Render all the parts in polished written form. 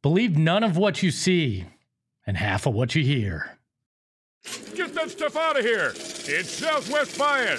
Believe none of what you see and half of what you hear. Get that stuff out of here. It's Southwest Bias.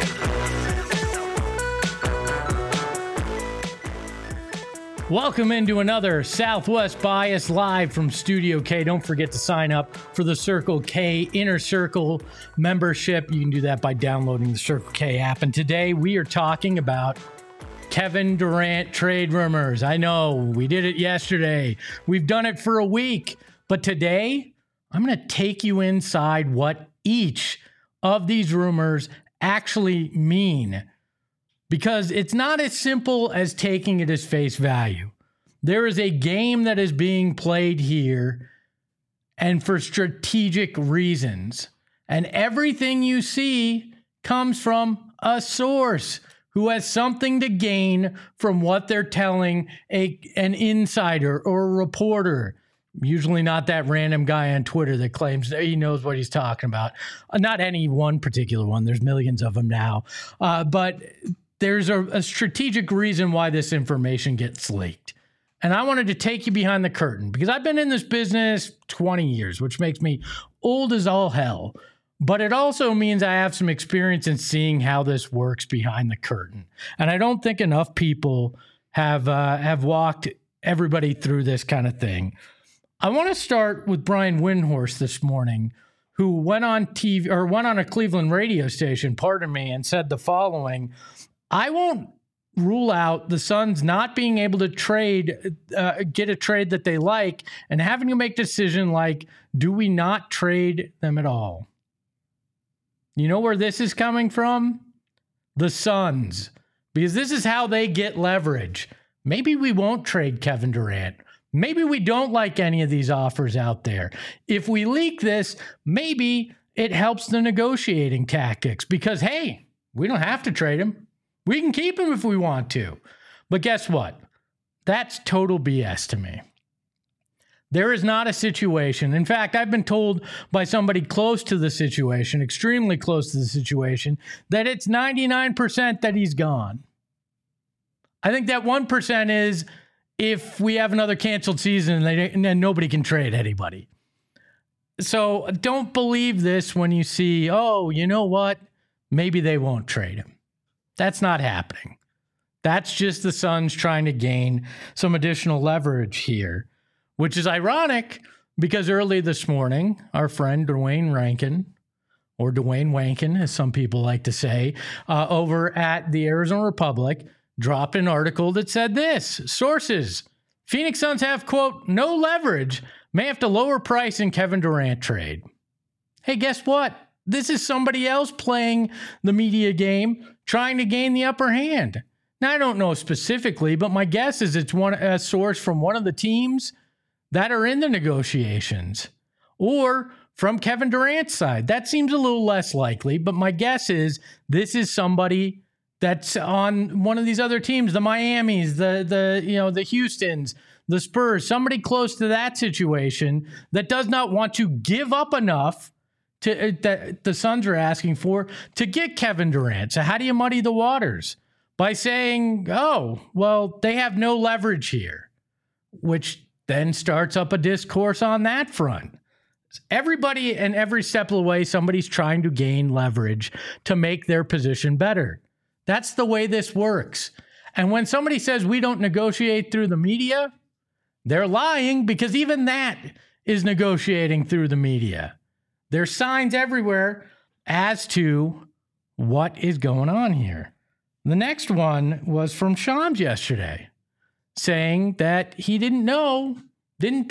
Welcome into another Southwest Bias live from Studio K. Don't forget to sign up for the Circle K Inner Circle membership. You can do that by downloading the Circle K app. And today we are talking about Kevin Durant trade rumors. I know we did it yesterday. We've done it for a week. But today I'm going to take you inside what each of these rumors actually mean. Because it's not as simple as taking it as face value. There is a game that is being played here, and for strategic reasons. And everything you see comes from a source who has something to gain from what they're telling an insider or a reporter. Usually not that random guy on Twitter that claims that he knows what he's talking about. Not any one particular one. There's millions of them now. But there's a strategic reason why this information gets leaked. And I wanted to take you behind the curtain because I've been in this business 20 years, which makes me old as all hell. But it also means I have some experience in seeing how this works behind the curtain. And I don't think enough people have walked everybody through this kind of thing. I want to start with Brian Windhorst this morning, who went on TV or went on a Cleveland radio station, and said the following: I won't rule out the Suns not being able to get a trade that they like and having to make a decision like, do we not trade them at all? You know where this is coming from? The Suns. Because this is how they get leverage. Maybe we won't trade Kevin Durant. Maybe we don't like any of these offers out there. If we leak this, maybe it helps the negotiating tactics because, hey, we don't have to trade him. We can keep him if we want to. But guess what? That's total BS to me. There is not a situation. In fact, I've been told by somebody close to the situation, extremely close to the situation, that it's 99% that he's gone. I think that 1% is if we have another canceled season and then nobody can trade anybody. So don't believe this when you see, oh, you know what? Maybe they won't trade him. That's not happening. That's just the Suns trying to gain some additional leverage here, which is ironic because early this morning, our friend Dwayne Rankin, or Dwayne Wankin, as some people like to say, over at the Arizona Republic, dropped an article that said this: sources, Phoenix Suns have, quote, no leverage, may have to lower price in Kevin Durant trade. Hey, guess what? This is somebody else playing the media game, trying to gain the upper hand. Now, I don't know specifically, but my guess is it's a source from one of the teams that are in the negotiations or from Kevin Durant's side. That seems a little less likely, but my guess is this is somebody that's on one of these other teams, the Miamis, the Houstons, the Spurs, somebody close to that situation that does not want to give up enough that the Suns are asking for to get Kevin Durant. So how do you muddy the waters? By saying, oh, well, they have no leverage here, which then starts up a discourse on that front. Everybody and every step of the way, somebody's trying to gain leverage to make their position better. That's the way this works. And when somebody says we don't negotiate through the media, they're lying because even that is negotiating through the media. There's signs everywhere as to what is going on here. The next one was from Shams yesterday, saying that he didn't know, didn't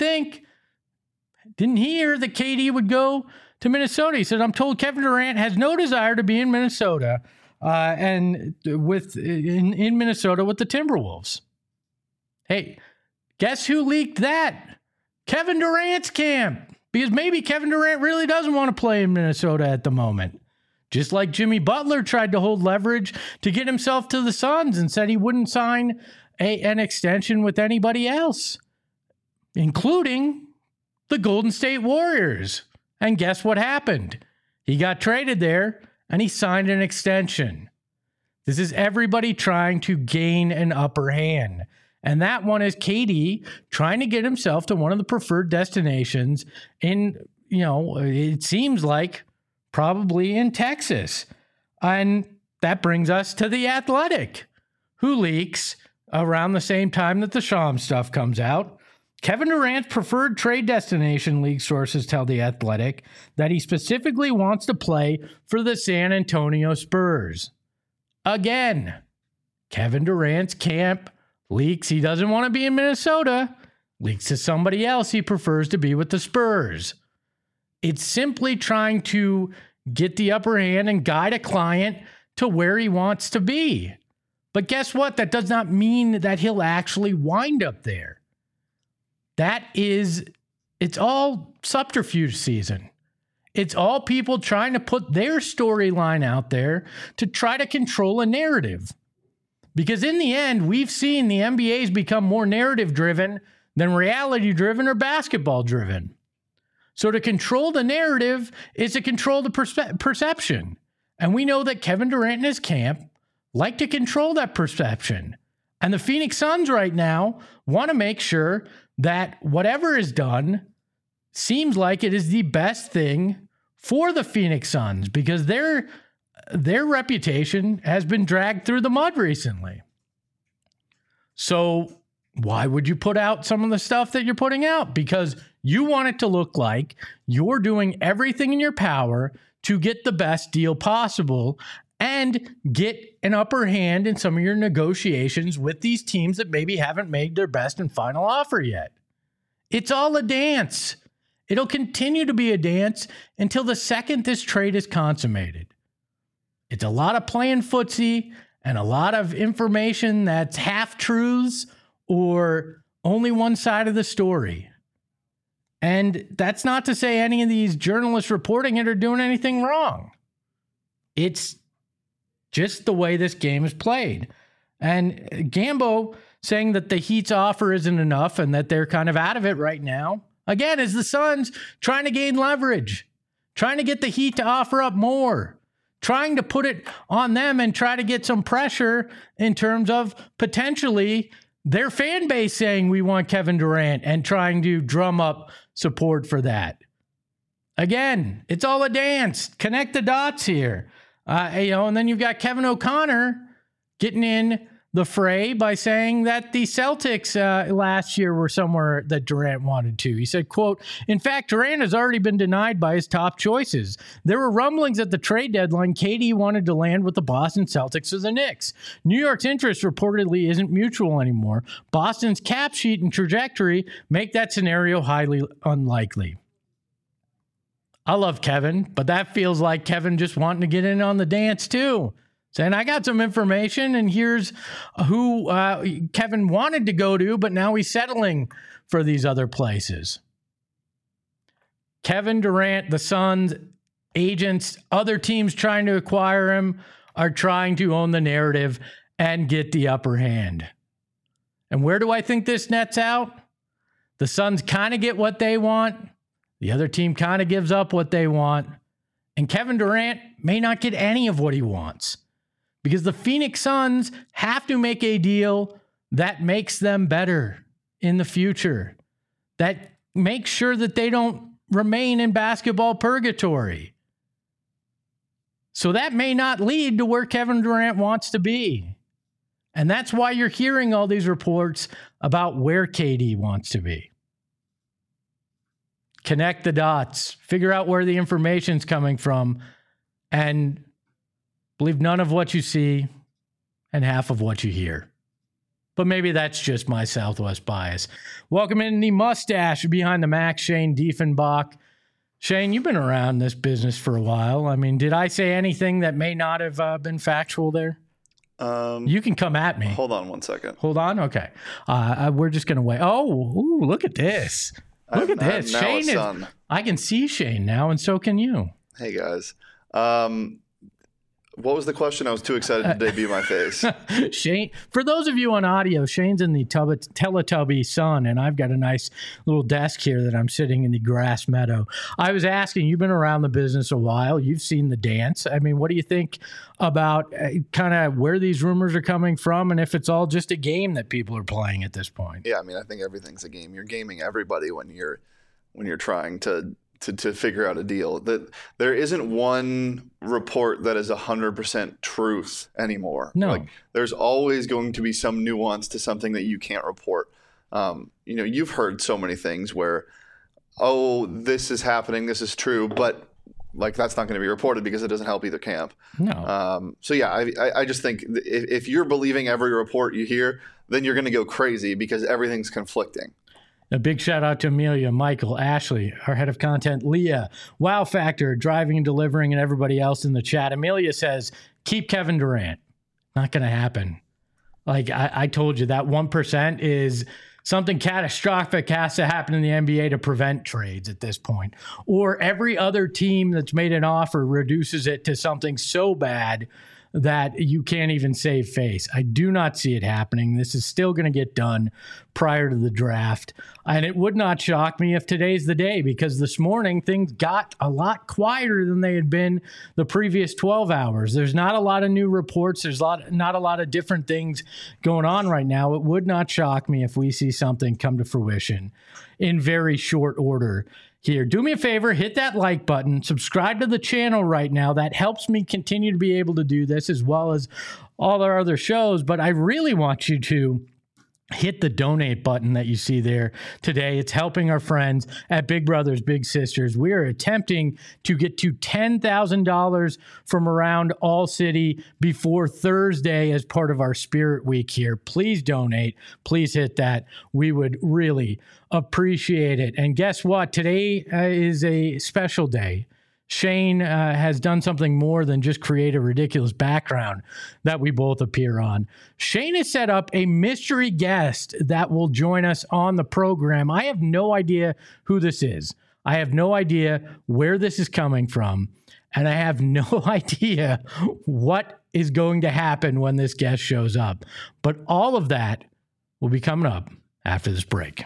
hear that KD would go to Minnesota. He said, I'm told Kevin Durant has no desire to be in Minnesota in Minnesota with the Timberwolves. Hey, guess who leaked that? Kevin Durant's camp. Because maybe Kevin Durant really doesn't want to play in Minnesota at the moment. Just like Jimmy Butler tried to hold leverage to get himself to the Suns and said he wouldn't sign an extension with anybody else, including the Golden State Warriors. And guess what happened? He got traded there and he signed an extension. This is everybody trying to gain an upper hand. And that one is KD trying to get himself to one of the preferred destinations in, it seems like probably in Texas. And that brings us to The Athletic, who leaks around the same time that the Shams stuff comes out. Kevin Durant's preferred trade destination, league sources tell The Athletic, that he specifically wants to play for the San Antonio Spurs. Again, Kevin Durant's camp leaks he doesn't want to be in Minnesota, leaks to somebody else he prefers to be with the Spurs. It's simply trying to get the upper hand and guide a client to where he wants to be. But guess what? That does not mean that he'll actually wind up there. It's all subterfuge season. It's all people trying to put their storyline out there to try to control a narrative. Because in the end, we've seen the NBA's become more narrative-driven than reality-driven or basketball-driven. So to control the narrative is to control the perception. And we know that Kevin Durant and his camp like to control that perception. And the Phoenix Suns right now want to make sure that whatever is done seems like it is the best thing for the Phoenix Suns, because their reputation has been dragged through the mud recently. So why would you put out some of the stuff that you're putting out? Because you want it to look like you're doing everything in your power to get the best deal possible and get an upper hand in some of your negotiations with these teams that maybe haven't made their best and final offer yet. It's all a dance. It'll continue to be a dance until the second this trade is consummated. It's a lot of playing footsie and a lot of information that's half-truths or only one side of the story. And that's not to say any of these journalists reporting it are doing anything wrong. It's just the way this game is played. And Gambo saying that the Heat's offer isn't enough and that they're kind of out of it right now, again, is the Suns trying to gain leverage, trying to get the Heat to offer up more, trying to put it on them and try to get some pressure in terms of potentially their fan base saying we want Kevin Durant and trying to drum up support for that. Again, it's all a dance. Connect the dots here. And then you've got Kevin O'Connor getting in the fray by saying that the Celtics last year were somewhere that Durant wanted to. He said, quote, "In fact, Durant has already been denied by his top choices. There were rumblings at the trade deadline KD wanted to land with the Boston Celtics or the Knicks. New York's interest reportedly isn't mutual anymore. Boston's cap sheet and trajectory make that scenario highly unlikely." I love Kevin, but that feels like Kevin just wanting to get in on the dance too. Saying, I got some information, and here's who Kevin wanted to go to, but now he's settling for these other places. Kevin Durant, the Suns, agents, other teams trying to acquire him are trying to own the narrative and get the upper hand. And where do I think this nets out? The Suns kind of get what they want. The other team kind of gives up what they want. And Kevin Durant may not get any of what he wants, because the Phoenix Suns have to make a deal that makes them better in the future, that makes sure that they don't remain in basketball purgatory. So that may not lead to where Kevin Durant wants to be. And that's why you're hearing all these reports about where KD wants to be. Connect the dots, figure out where the information's coming from, and believe none of what you see and half of what you hear. But maybe that's just my Southwest bias. Welcome in the mustache behind the Mac, Shane Diefenbach. Shane, you've been around this business for a while. I mean, did I say anything that may not have been factual there? You can come at me. Hold on one second. Hold on? Okay. We're just going to wait. Oh, look at this. Look at this. Shane is, I can see Shane now, and so can you. Hey, guys. What was the question? I was too excited to debut my face. Shane, for those of you on audio, Shane's in the Teletubby sun, and I've got a nice little desk here that I'm sitting in the grass meadow. I was asking, you've been around the business a while. You've seen the dance. I mean, what do you think about kind of where these rumors are coming from, and if it's all just a game that people are playing at this point? Yeah, I mean, I think everything's a game. You're gaming everybody when you're trying to figure out a deal. That there isn't one report that is 100% truth anymore. No. Like, there's always going to be some nuance to something that you can't report. You've heard so many things where, oh, this is happening, this is true, but like that's not going to be reported because it doesn't help either camp. No. So yeah, I just think if you're believing every report you hear, then you're going to go crazy because everything's conflicting. A big shout out to Amelia, Michael, Ashley, our head of content, Leah, Wow Factor, Driving and Delivering, and everybody else in the chat. Amelia says, keep Kevin Durant. Not going to happen. Like I told you, that 1% is something catastrophic has to happen in the NBA to prevent trades at this point. Or every other team that's made an offer reduces it to something so bad that you can't even save face. I do not see it happening. This is still going to get done prior to the draft. And it would not shock me if today's the day, because this morning things got a lot quieter than they had been the previous 12 hours. There's not a lot of new reports. There's not a lot of different things going on right now. It would not shock me if we see something come to fruition in very short order here. Do me a favor, hit that like button, subscribe to the channel right now. That helps me continue to be able to do this as well as all our other shows. But I really want you to hit the donate button that you see there today. It's helping our friends at Big Brothers Big Sisters. We are attempting to get to $10,000 from around All City before Thursday as part of our Spirit Week here. Please donate. Please hit that. We would really appreciate it. And guess what? Today is a special day. Shane has done something more than just create a ridiculous background that we both appear on. Shane has set up a mystery guest that will join us on the program. I have no idea who this is. I have no idea where this is coming from. And I have no idea what is going to happen when this guest shows up. But all of that will be coming up after this break.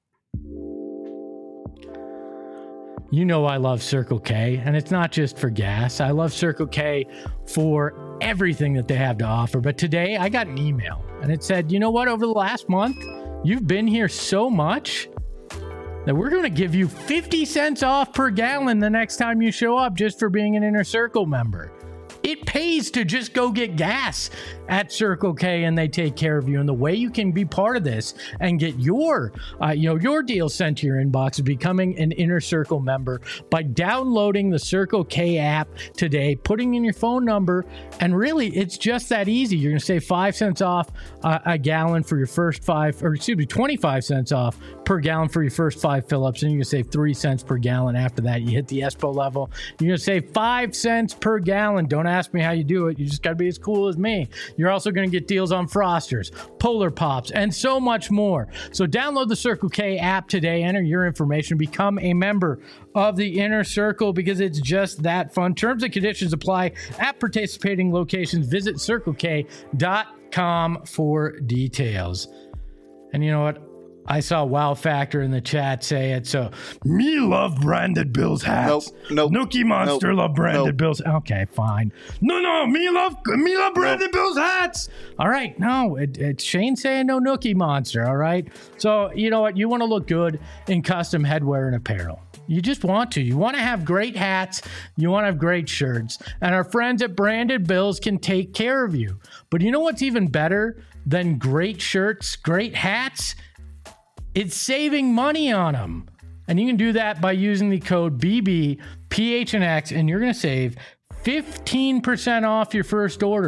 You know I love Circle K, and it's not just for gas. I love Circle K for everything that they have to offer. But today I got an email, and it said, you know what? Over the last month, you've been here so much that we're going to give you 50 cents off per gallon the next time you show up just for being an Inner Circle member. It pays to just go get gas at Circle K, and they take care of you. And the way you can be part of this and get your deal sent to your inbox is becoming an Inner Circle member by downloading the Circle K app today, putting in your phone number, and really, it's just that easy. You're going to save 5 cents off a gallon for your first 25 cents off per gallon for your first 5 fill-ups, and you're going to save 3 cents per gallon after that. You hit the ESPO level, you're going to save 5 cents per gallon. Don't ask me how you do it. You just got to be as cool as me. You're also going to get deals on Frosters, Polar Pops, and so much more. So download the Circle K app today, enter your information, become a member of the Inner Circle, because it's just that fun. Terms and conditions apply at participating locations. Visit CircleK.com for details. And you know what? I saw Wow Factor in the chat say it. So, me love branded Bills hats. Nope. Nookie Monster love branded Bills. Okay, fine. No, me love branded Bills hats. All right, no, it's Shane saying no Nookie Monster. All right. So you know what? You want to look good in custom headwear and apparel. You just want to. You want to have great hats. You want to have great shirts. And our friends at Branded Bills can take care of you. But you know what's even better than great shirts, great hats? It's saving money on them. And you can do that by using the code BBPHNX, and you're going to save 15% off your first order.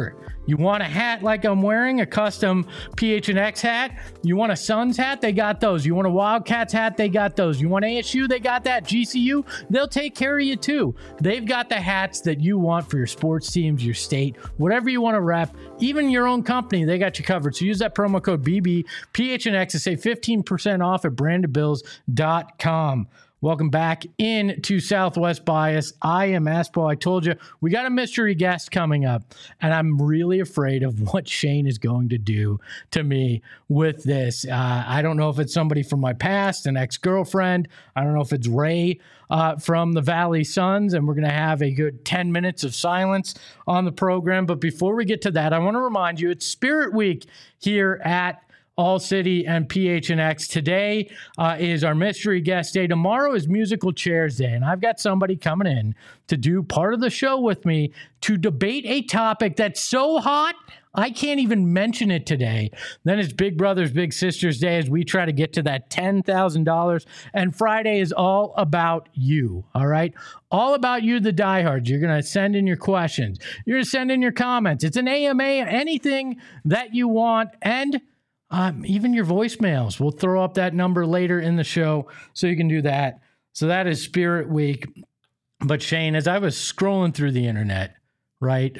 You want a hat like I'm wearing, a custom PHNX hat? You want a Suns hat? They got those. You want a Wildcats hat? They got those. You want ASU? They got that. GCU? They'll take care of you too. They've got the hats that you want for your sports teams, your state, whatever you want to rep, even your own company. They got you covered. So use that promo code BBPHNX to save 15% off at brandedbills.com. Welcome back into Southwest Bias. I am Aspo. I told you we got a mystery guest coming up, and I'm really afraid of what Shane is going to do to me with this. I don't know if it's somebody from my past, an ex-girlfriend. I don't know if it's Ray from the Valley Suns, and we're going to have a good 10 minutes of silence on the program. But before we get to that, I want to remind you it's Spirit Week here at All City and PHNX. Today is our mystery guest day. Tomorrow is musical chairs day, and I've got somebody coming in to do part of the show with me to debate a topic that's so hot I can't even mention it today. Then it's Big Brothers Big Sisters Day as we try to get to that $10,000. And Friday is all about you, all right? All about you, the diehards. You're going to send in your questions. You're going to send in your comments. It's an AMA, anything that you want, and even your voicemails. We'll throw up that number later in the show so you can do that. So that is Spirit Week. But Shane, as I was scrolling through the internet, right,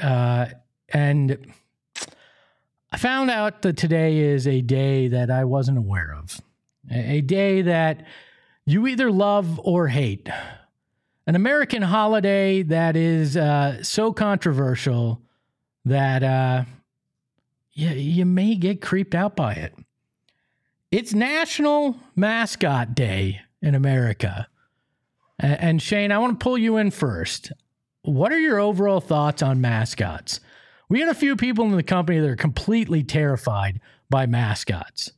and I found out that today is a day that I wasn't aware of. A day that you either love or hate. An American holiday that is so controversial that you may get creeped out by it. It's National Mascot Day in America. And Shane, I want to pull you in first. What are your overall thoughts on mascots? We got a few people in the company that are completely terrified by mascots.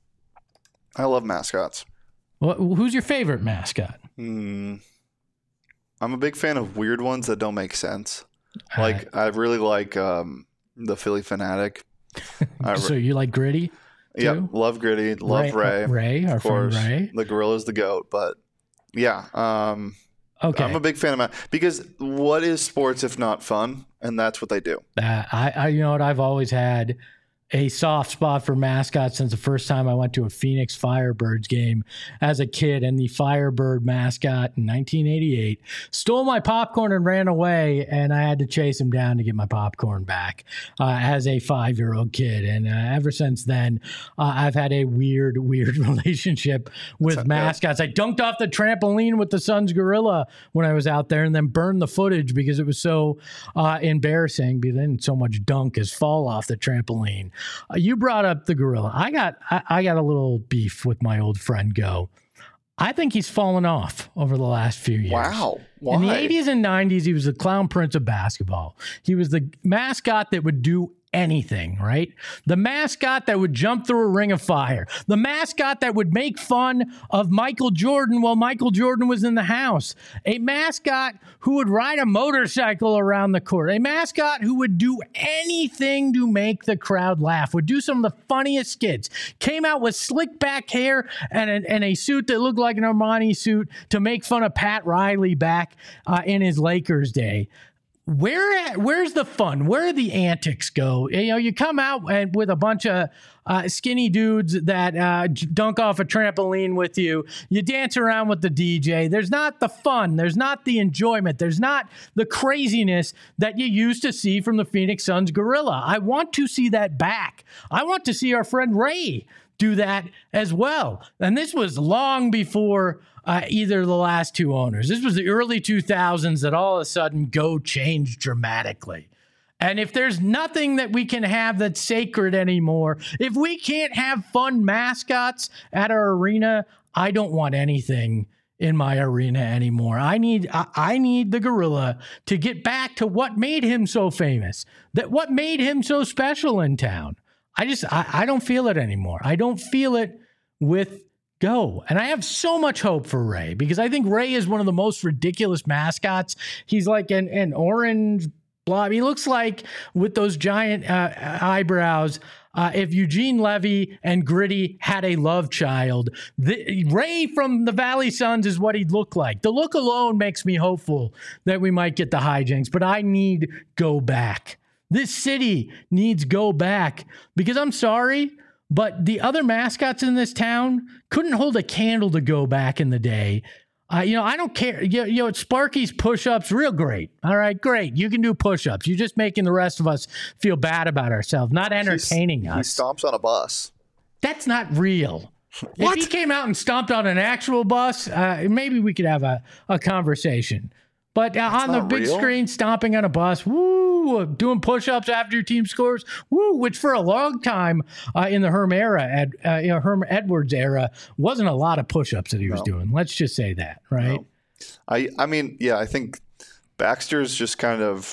I love mascots. Well, who's your favorite mascot? I'm a big fan of weird ones that don't make sense. Like, I really like the Philly Fanatic. So you like Gritty? Yeah, love Gritty. Love Ray. Ray, our friend Ray. The gorilla's the GOAT. But yeah, okay. I'm a big fan of because what is sports if not fun? And that's what they do. I you know what? I've always had a soft spot for mascots since the first time I went to a Phoenix Firebirds game as a kid, and the Firebird mascot in 1988 stole my popcorn and ran away, and I had to chase him down to get my popcorn back as a 5-year-old kid. And ever since then, I've had a weird relationship with mascots. I dunked off the trampoline with the Suns gorilla when I was out there and then burned the footage because it was so embarrassing because I didn't so much dunk as fall off the trampoline. You brought up the gorilla. I got a little beef with my old friend Go. I think he's fallen off over the last few years. Wow. Why? In the 80s and 90s, he was the clown prince of basketball. He was the mascot that would do anything, right? The mascot that would jump through a ring of fire. The mascot that would make fun of Michael Jordan while Michael Jordan was in the house. A mascot who would ride a motorcycle around the court. A mascot who would do anything to make the crowd laugh. Would do some of the funniest skits. Came out with slick back hair and a suit that looked like an Armani suit to make fun of Pat Riley back in his Lakers day. Where's the fun? Where do the antics go? You know, you come out with a bunch of skinny dudes that dunk off a trampoline with you. You dance around with the DJ. There's not the fun. There's not the enjoyment. There's not the craziness that you used to see from the Phoenix Suns gorilla. I want to see that back. I want to see our friend Ray do that as well. And this was long before either of the last two owners. This was the early 2000s that all of a sudden Go changed dramatically. And if there's nothing that we can have that's sacred anymore, if we can't have fun mascots at our arena, I don't want anything in my arena anymore. I need the gorilla to get back to what made him so famous, that what made him so special in town. I don't feel it anymore. I don't feel it with Go. And I have so much hope for Ray because I think Ray is one of the most ridiculous mascots. He's like an orange blob. He looks like, with those giant eyebrows, if Eugene Levy and Gritty had a love child, Ray from the Valley Suns is what he'd look like. The look alone makes me hopeful that we might get the hijinks, but I need Go back. This city needs Go Back, because I'm sorry, but the other mascots in this town couldn't hold a candle to Go Back in the day. I don't care. Sparky's push-ups, real great. All right, great. You can do push-ups. You're just making the rest of us feel bad about ourselves, not entertaining us. He stomps on a bus. That's not real. What? If he came out and stomped on an actual bus, maybe we could have a conversation. But on the big screen, stomping on a bus, woo, doing push-ups after your team scores, woo, which for a long time in the Herm era, Herm Edwards era, wasn't a lot of push-ups that he was doing. Let's just say that, right? No. I mean, I think Baxter's just kind of...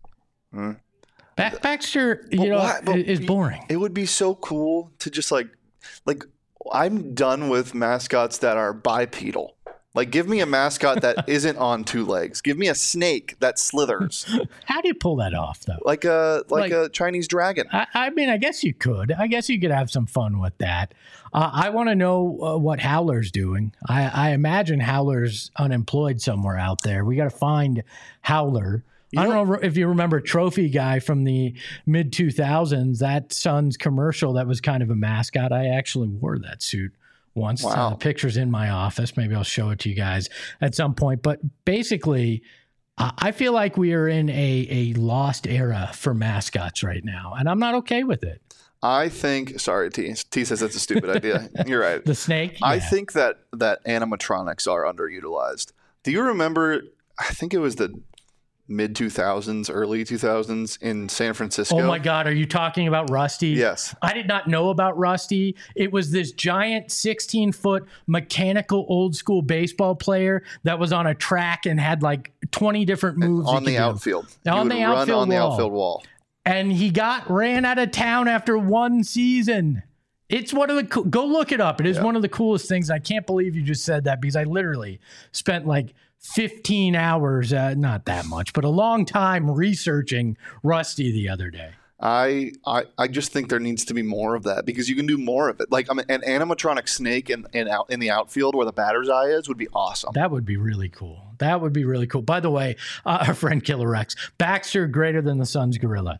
Baxter, is boring. It would be so cool to just like I'm done with mascots that are bipedal. Like, give me a mascot that isn't on two legs. Give me a snake that slithers. How do you pull that off, though? Like a Chinese dragon. I mean, I guess you could. I guess you could have some fun with that. I want to know what Howler's doing. I imagine Howler's unemployed somewhere out there. We got to find Howler. I don't know if you remember Trophy Guy from the mid-2000s, that Suns commercial that was kind of a mascot. I actually wore that suit once. Wow. The picture's in my office. Maybe I'll show it to you guys at some point. But basically, I feel like we are in a lost era for mascots right now, and I'm not okay with it. I think, sorry, T says that's a stupid idea. You're right. The snake? Yeah. I think that animatronics are underutilized. Do you remember, I think it was the mid-2000s, early 2000s in San Francisco. Oh my God, are you talking about Rusty? Yes. I did not know about Rusty. It was this giant 16-foot mechanical old school baseball player that was on a track and had like 20 different moves. On the outfield. On the outfield wall. And he ran out of town after one season. It's one of the go look it up. It is one of the coolest things. I can't believe you just said that, because I literally spent like 15 hours, not that much, but a long time researching Rusty the other day. I just think there needs to be more of that, because you can do more of it. Like, an animatronic snake in the outfield where the batter's eye is would be awesome. That would be really cool. That would be really cool. By the way, our friend Killer Rex, Baxter greater than the Suns gorilla.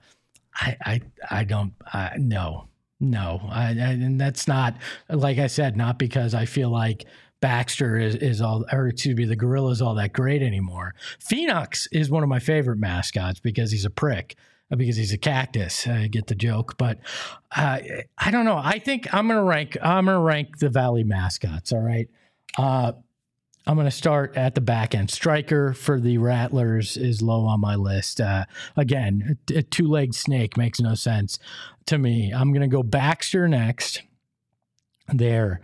No. And that's not, like I said, not because I feel like Baxter the gorilla is all that great anymore. Phoenix is one of my favorite mascots because he's a prick, because he's a cactus. I get the joke, but I don't know. I think I'm gonna rank the Valley mascots. All right. I'm going to start at the back end. Striker for the Rattlers is low on my list. Again, a two-legged snake makes no sense to me. I'm going to go Baxter next. There.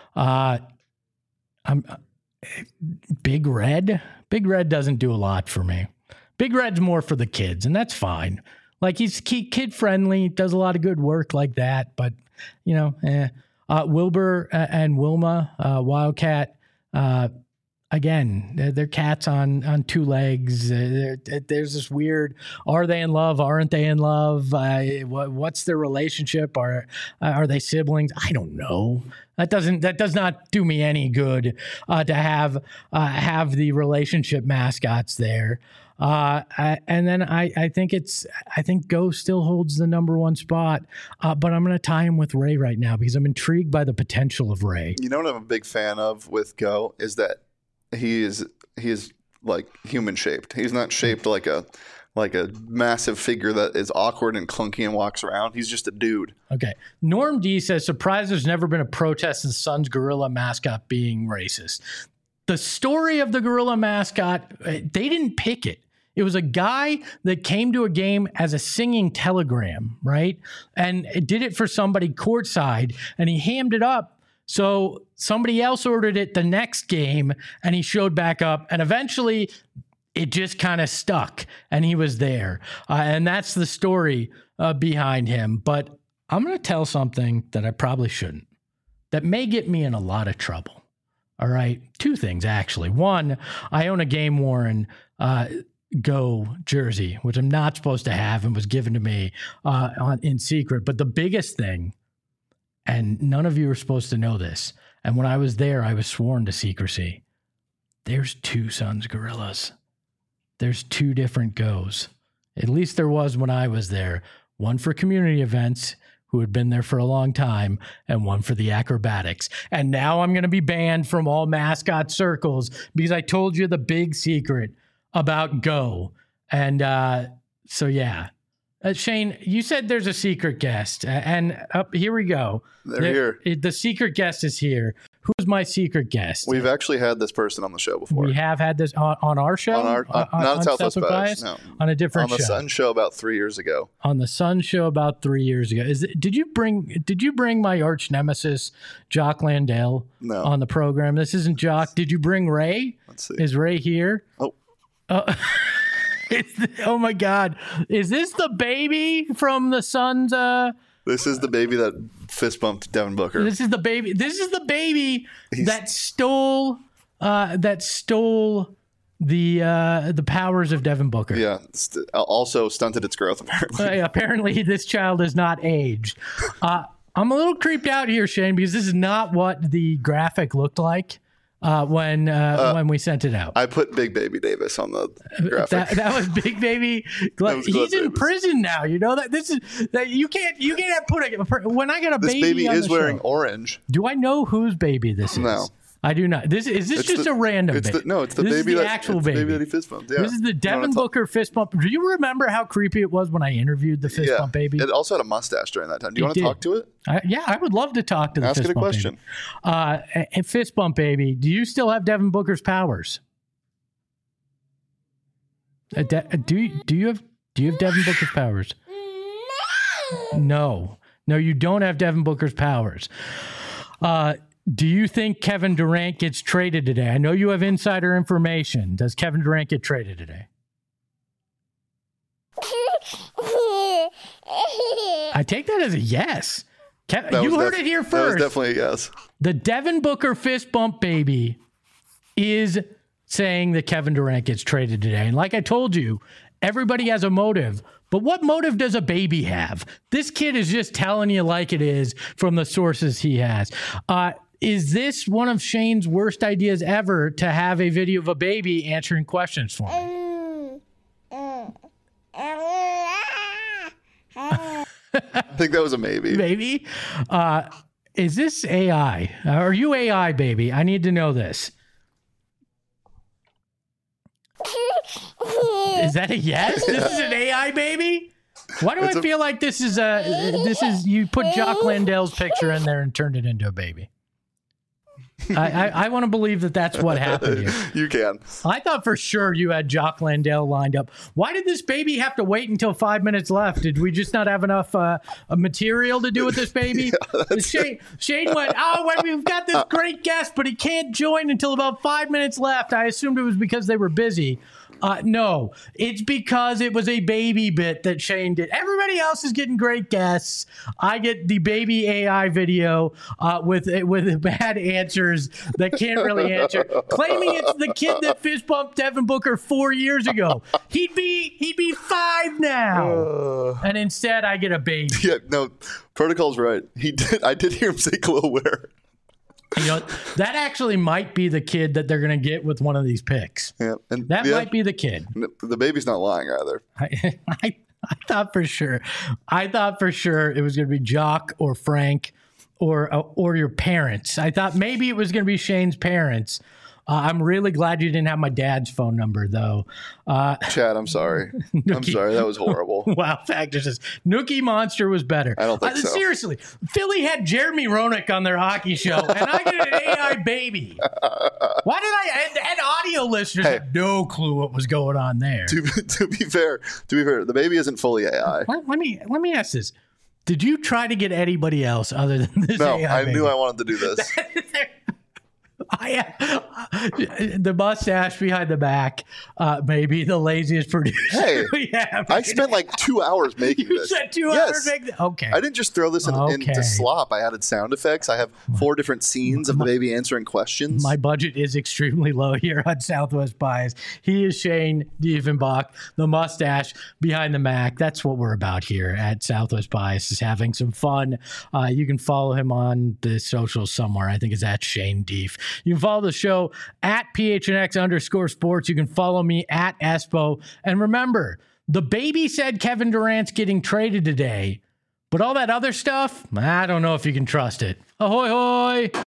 Big Red. Big Red doesn't do a lot for me. Big Red's more for the kids, and that's fine. Like, he's kid-friendly, does a lot of good work like that, but, Wilbur and Wilma, Wildcat, again, they're cats on two legs. There's this weird, are they in love? Aren't they in love? What's their relationship? Are they siblings? I don't know. That does not do me any good to have the relationship mascots there. And then I think Go still holds the number one spot, but I'm going to tie him with Ray right now because I'm intrigued by the potential of Ray. You know what I'm a big fan of with Go is that he is like human shaped. He's not shaped like a massive figure that is awkward and clunky and walks around. He's just a dude. Okay. Norm D says, surprised there's never been a protest of the Suns gorilla mascot being racist. The story of the gorilla mascot, they didn't pick it. It was a guy that came to a game as a singing telegram, right? And it did it for somebody courtside, and he hammed it up. So somebody else ordered it the next game, and he showed back up, and eventually it just kind of stuck, and he was there. And that's the story behind him. But I'm going to tell something that I probably shouldn't, that may get me in a lot of trouble. All right? Two things, actually. One, I own a game worn Go jersey, which I'm not supposed to have and was given to me in secret. But the biggest thing, and none of you are supposed to know this, and when I was there, I was sworn to secrecy. There's two Suns gorillas. There's two different Goes. At least there was when I was there. One for community events, who had been there for a long time, and one for the acrobatics. And now I'm going to be banned from all mascot circles because I told you the big secret about Go. And so, yeah. Shane, you said there's a secret guest, and here we go. They're here. The secret guest is here. Who's my secret guest? We've actually had this person on the show before. We have had this on our show? Not Southwest Bias, no. On a different show. On the Sun show about 3 years ago. On the Sun show about 3 years ago. Did you bring my arch nemesis, Jock Landale, on the program? This isn't Jock. Did you bring Ray? Let's see. Is Ray here? Oh. Oh my God. Is this the baby from the Sun's This is the baby that fist bumped Devin Booker. This is the baby that stole the powers of Devin Booker. Yeah. Also stunted its growth, apparently. Apparently this child is not aged. I'm a little creeped out here, Shane, because this is not what the graphic looked like when we sent it out. I put Big Baby Davis on the graphic. That was Big Baby. He's in prison now. You know that you can't put when I get a baby. This baby is wearing show, orange. Do I know whose baby this is? No. I do not. Is this just a random baby? It's the this baby is the that actual baby. baby That he fist bumped. Yeah. This is the Devin Booker fist bump. Do you remember how creepy it was when I interviewed the fist bump baby? It also had a mustache during that time. Do you want to talk to it? I would love to talk to the fist bump baby. Ask it a question. Fist bump baby, do you still have Devin Booker's powers? Do you have Devin Booker's powers? No, you don't have Devin Booker's powers. Do you think Kevin Durant gets traded today? I know you have insider information. Does Kevin Durant get traded today? I take that as a yes. You heard it here first. That was definitely a yes. The Devin Booker fist bump baby is saying that Kevin Durant gets traded today. And like I told you, everybody has a motive. But what motive does a baby have? This kid is just telling you like it is from the sources he has. Is this one of Shane's worst ideas ever to have a video of a baby answering questions for me? I think that was a maybe. Maybe? Is this AI? Are you AI, baby? I need to know this. Is that a yes? This is an AI baby? Why do I feel like this is you put Jock Landale's picture in there and turned it into a baby? I want to believe that that's what happened here. You can. I thought for sure you had Jock Landale lined up. Why did this baby have to wait until 5 minutes left? Did we just not have enough material to do with this baby? Shane went, we've got this great guest, but he can't join until about 5 minutes left. I assumed it was because they were busy. No, it's because it was a baby bit that Shane did. Everybody else is getting great guests. I get the baby AI video with bad answers that can't really answer, claiming it's the kid that fist bumped Devin Booker 4 years ago. He'd be 5 now, and instead I get a baby. Yeah, no, protocol's right. I did hear him say Glowware. You know, that actually might be the kid that they're going to get with one of these picks. Yeah, might be the kid. The baby's not lying either. I thought for sure. It was going to be Jock or Frank or your parents. I thought maybe it was going to be Shane's parents. I'm really glad you didn't have my dad's phone number, though. Chad, I'm sorry. I'm sorry. That was horrible. Wow, Factor says Nookie Monster was better. I don't think so. Seriously, Philly had Jeremy Roenick on their hockey show, and I get an AI baby. Why did I? And audio listeners have no clue what was going on there. To be fair, the baby isn't fully AI. Let me ask this. Did you try to get anybody else other than this AI baby? No, I knew I wanted to do this. The mustache behind the back, maybe the laziest producer. Hey, we have. I spent like 2 hours making this. You spent 2 hours making this? Okay. I didn't just throw this into slop. I added sound effects. I have 4 different scenes of the baby answering questions. My budget is extremely low here on Southwest Bias. He is Shane Diefenbach, the mustache behind the Mac. That's what we're about here at Southwest Bias, is having some fun. You can follow him on the socials somewhere. I think it's at Shane Dief. You can follow the show at PHNX_sports. You can follow me at Espo. And remember, The baby said Kevin Durant's getting traded today, but all that other stuff, I don't know if you can trust it. Ahoy, hoy!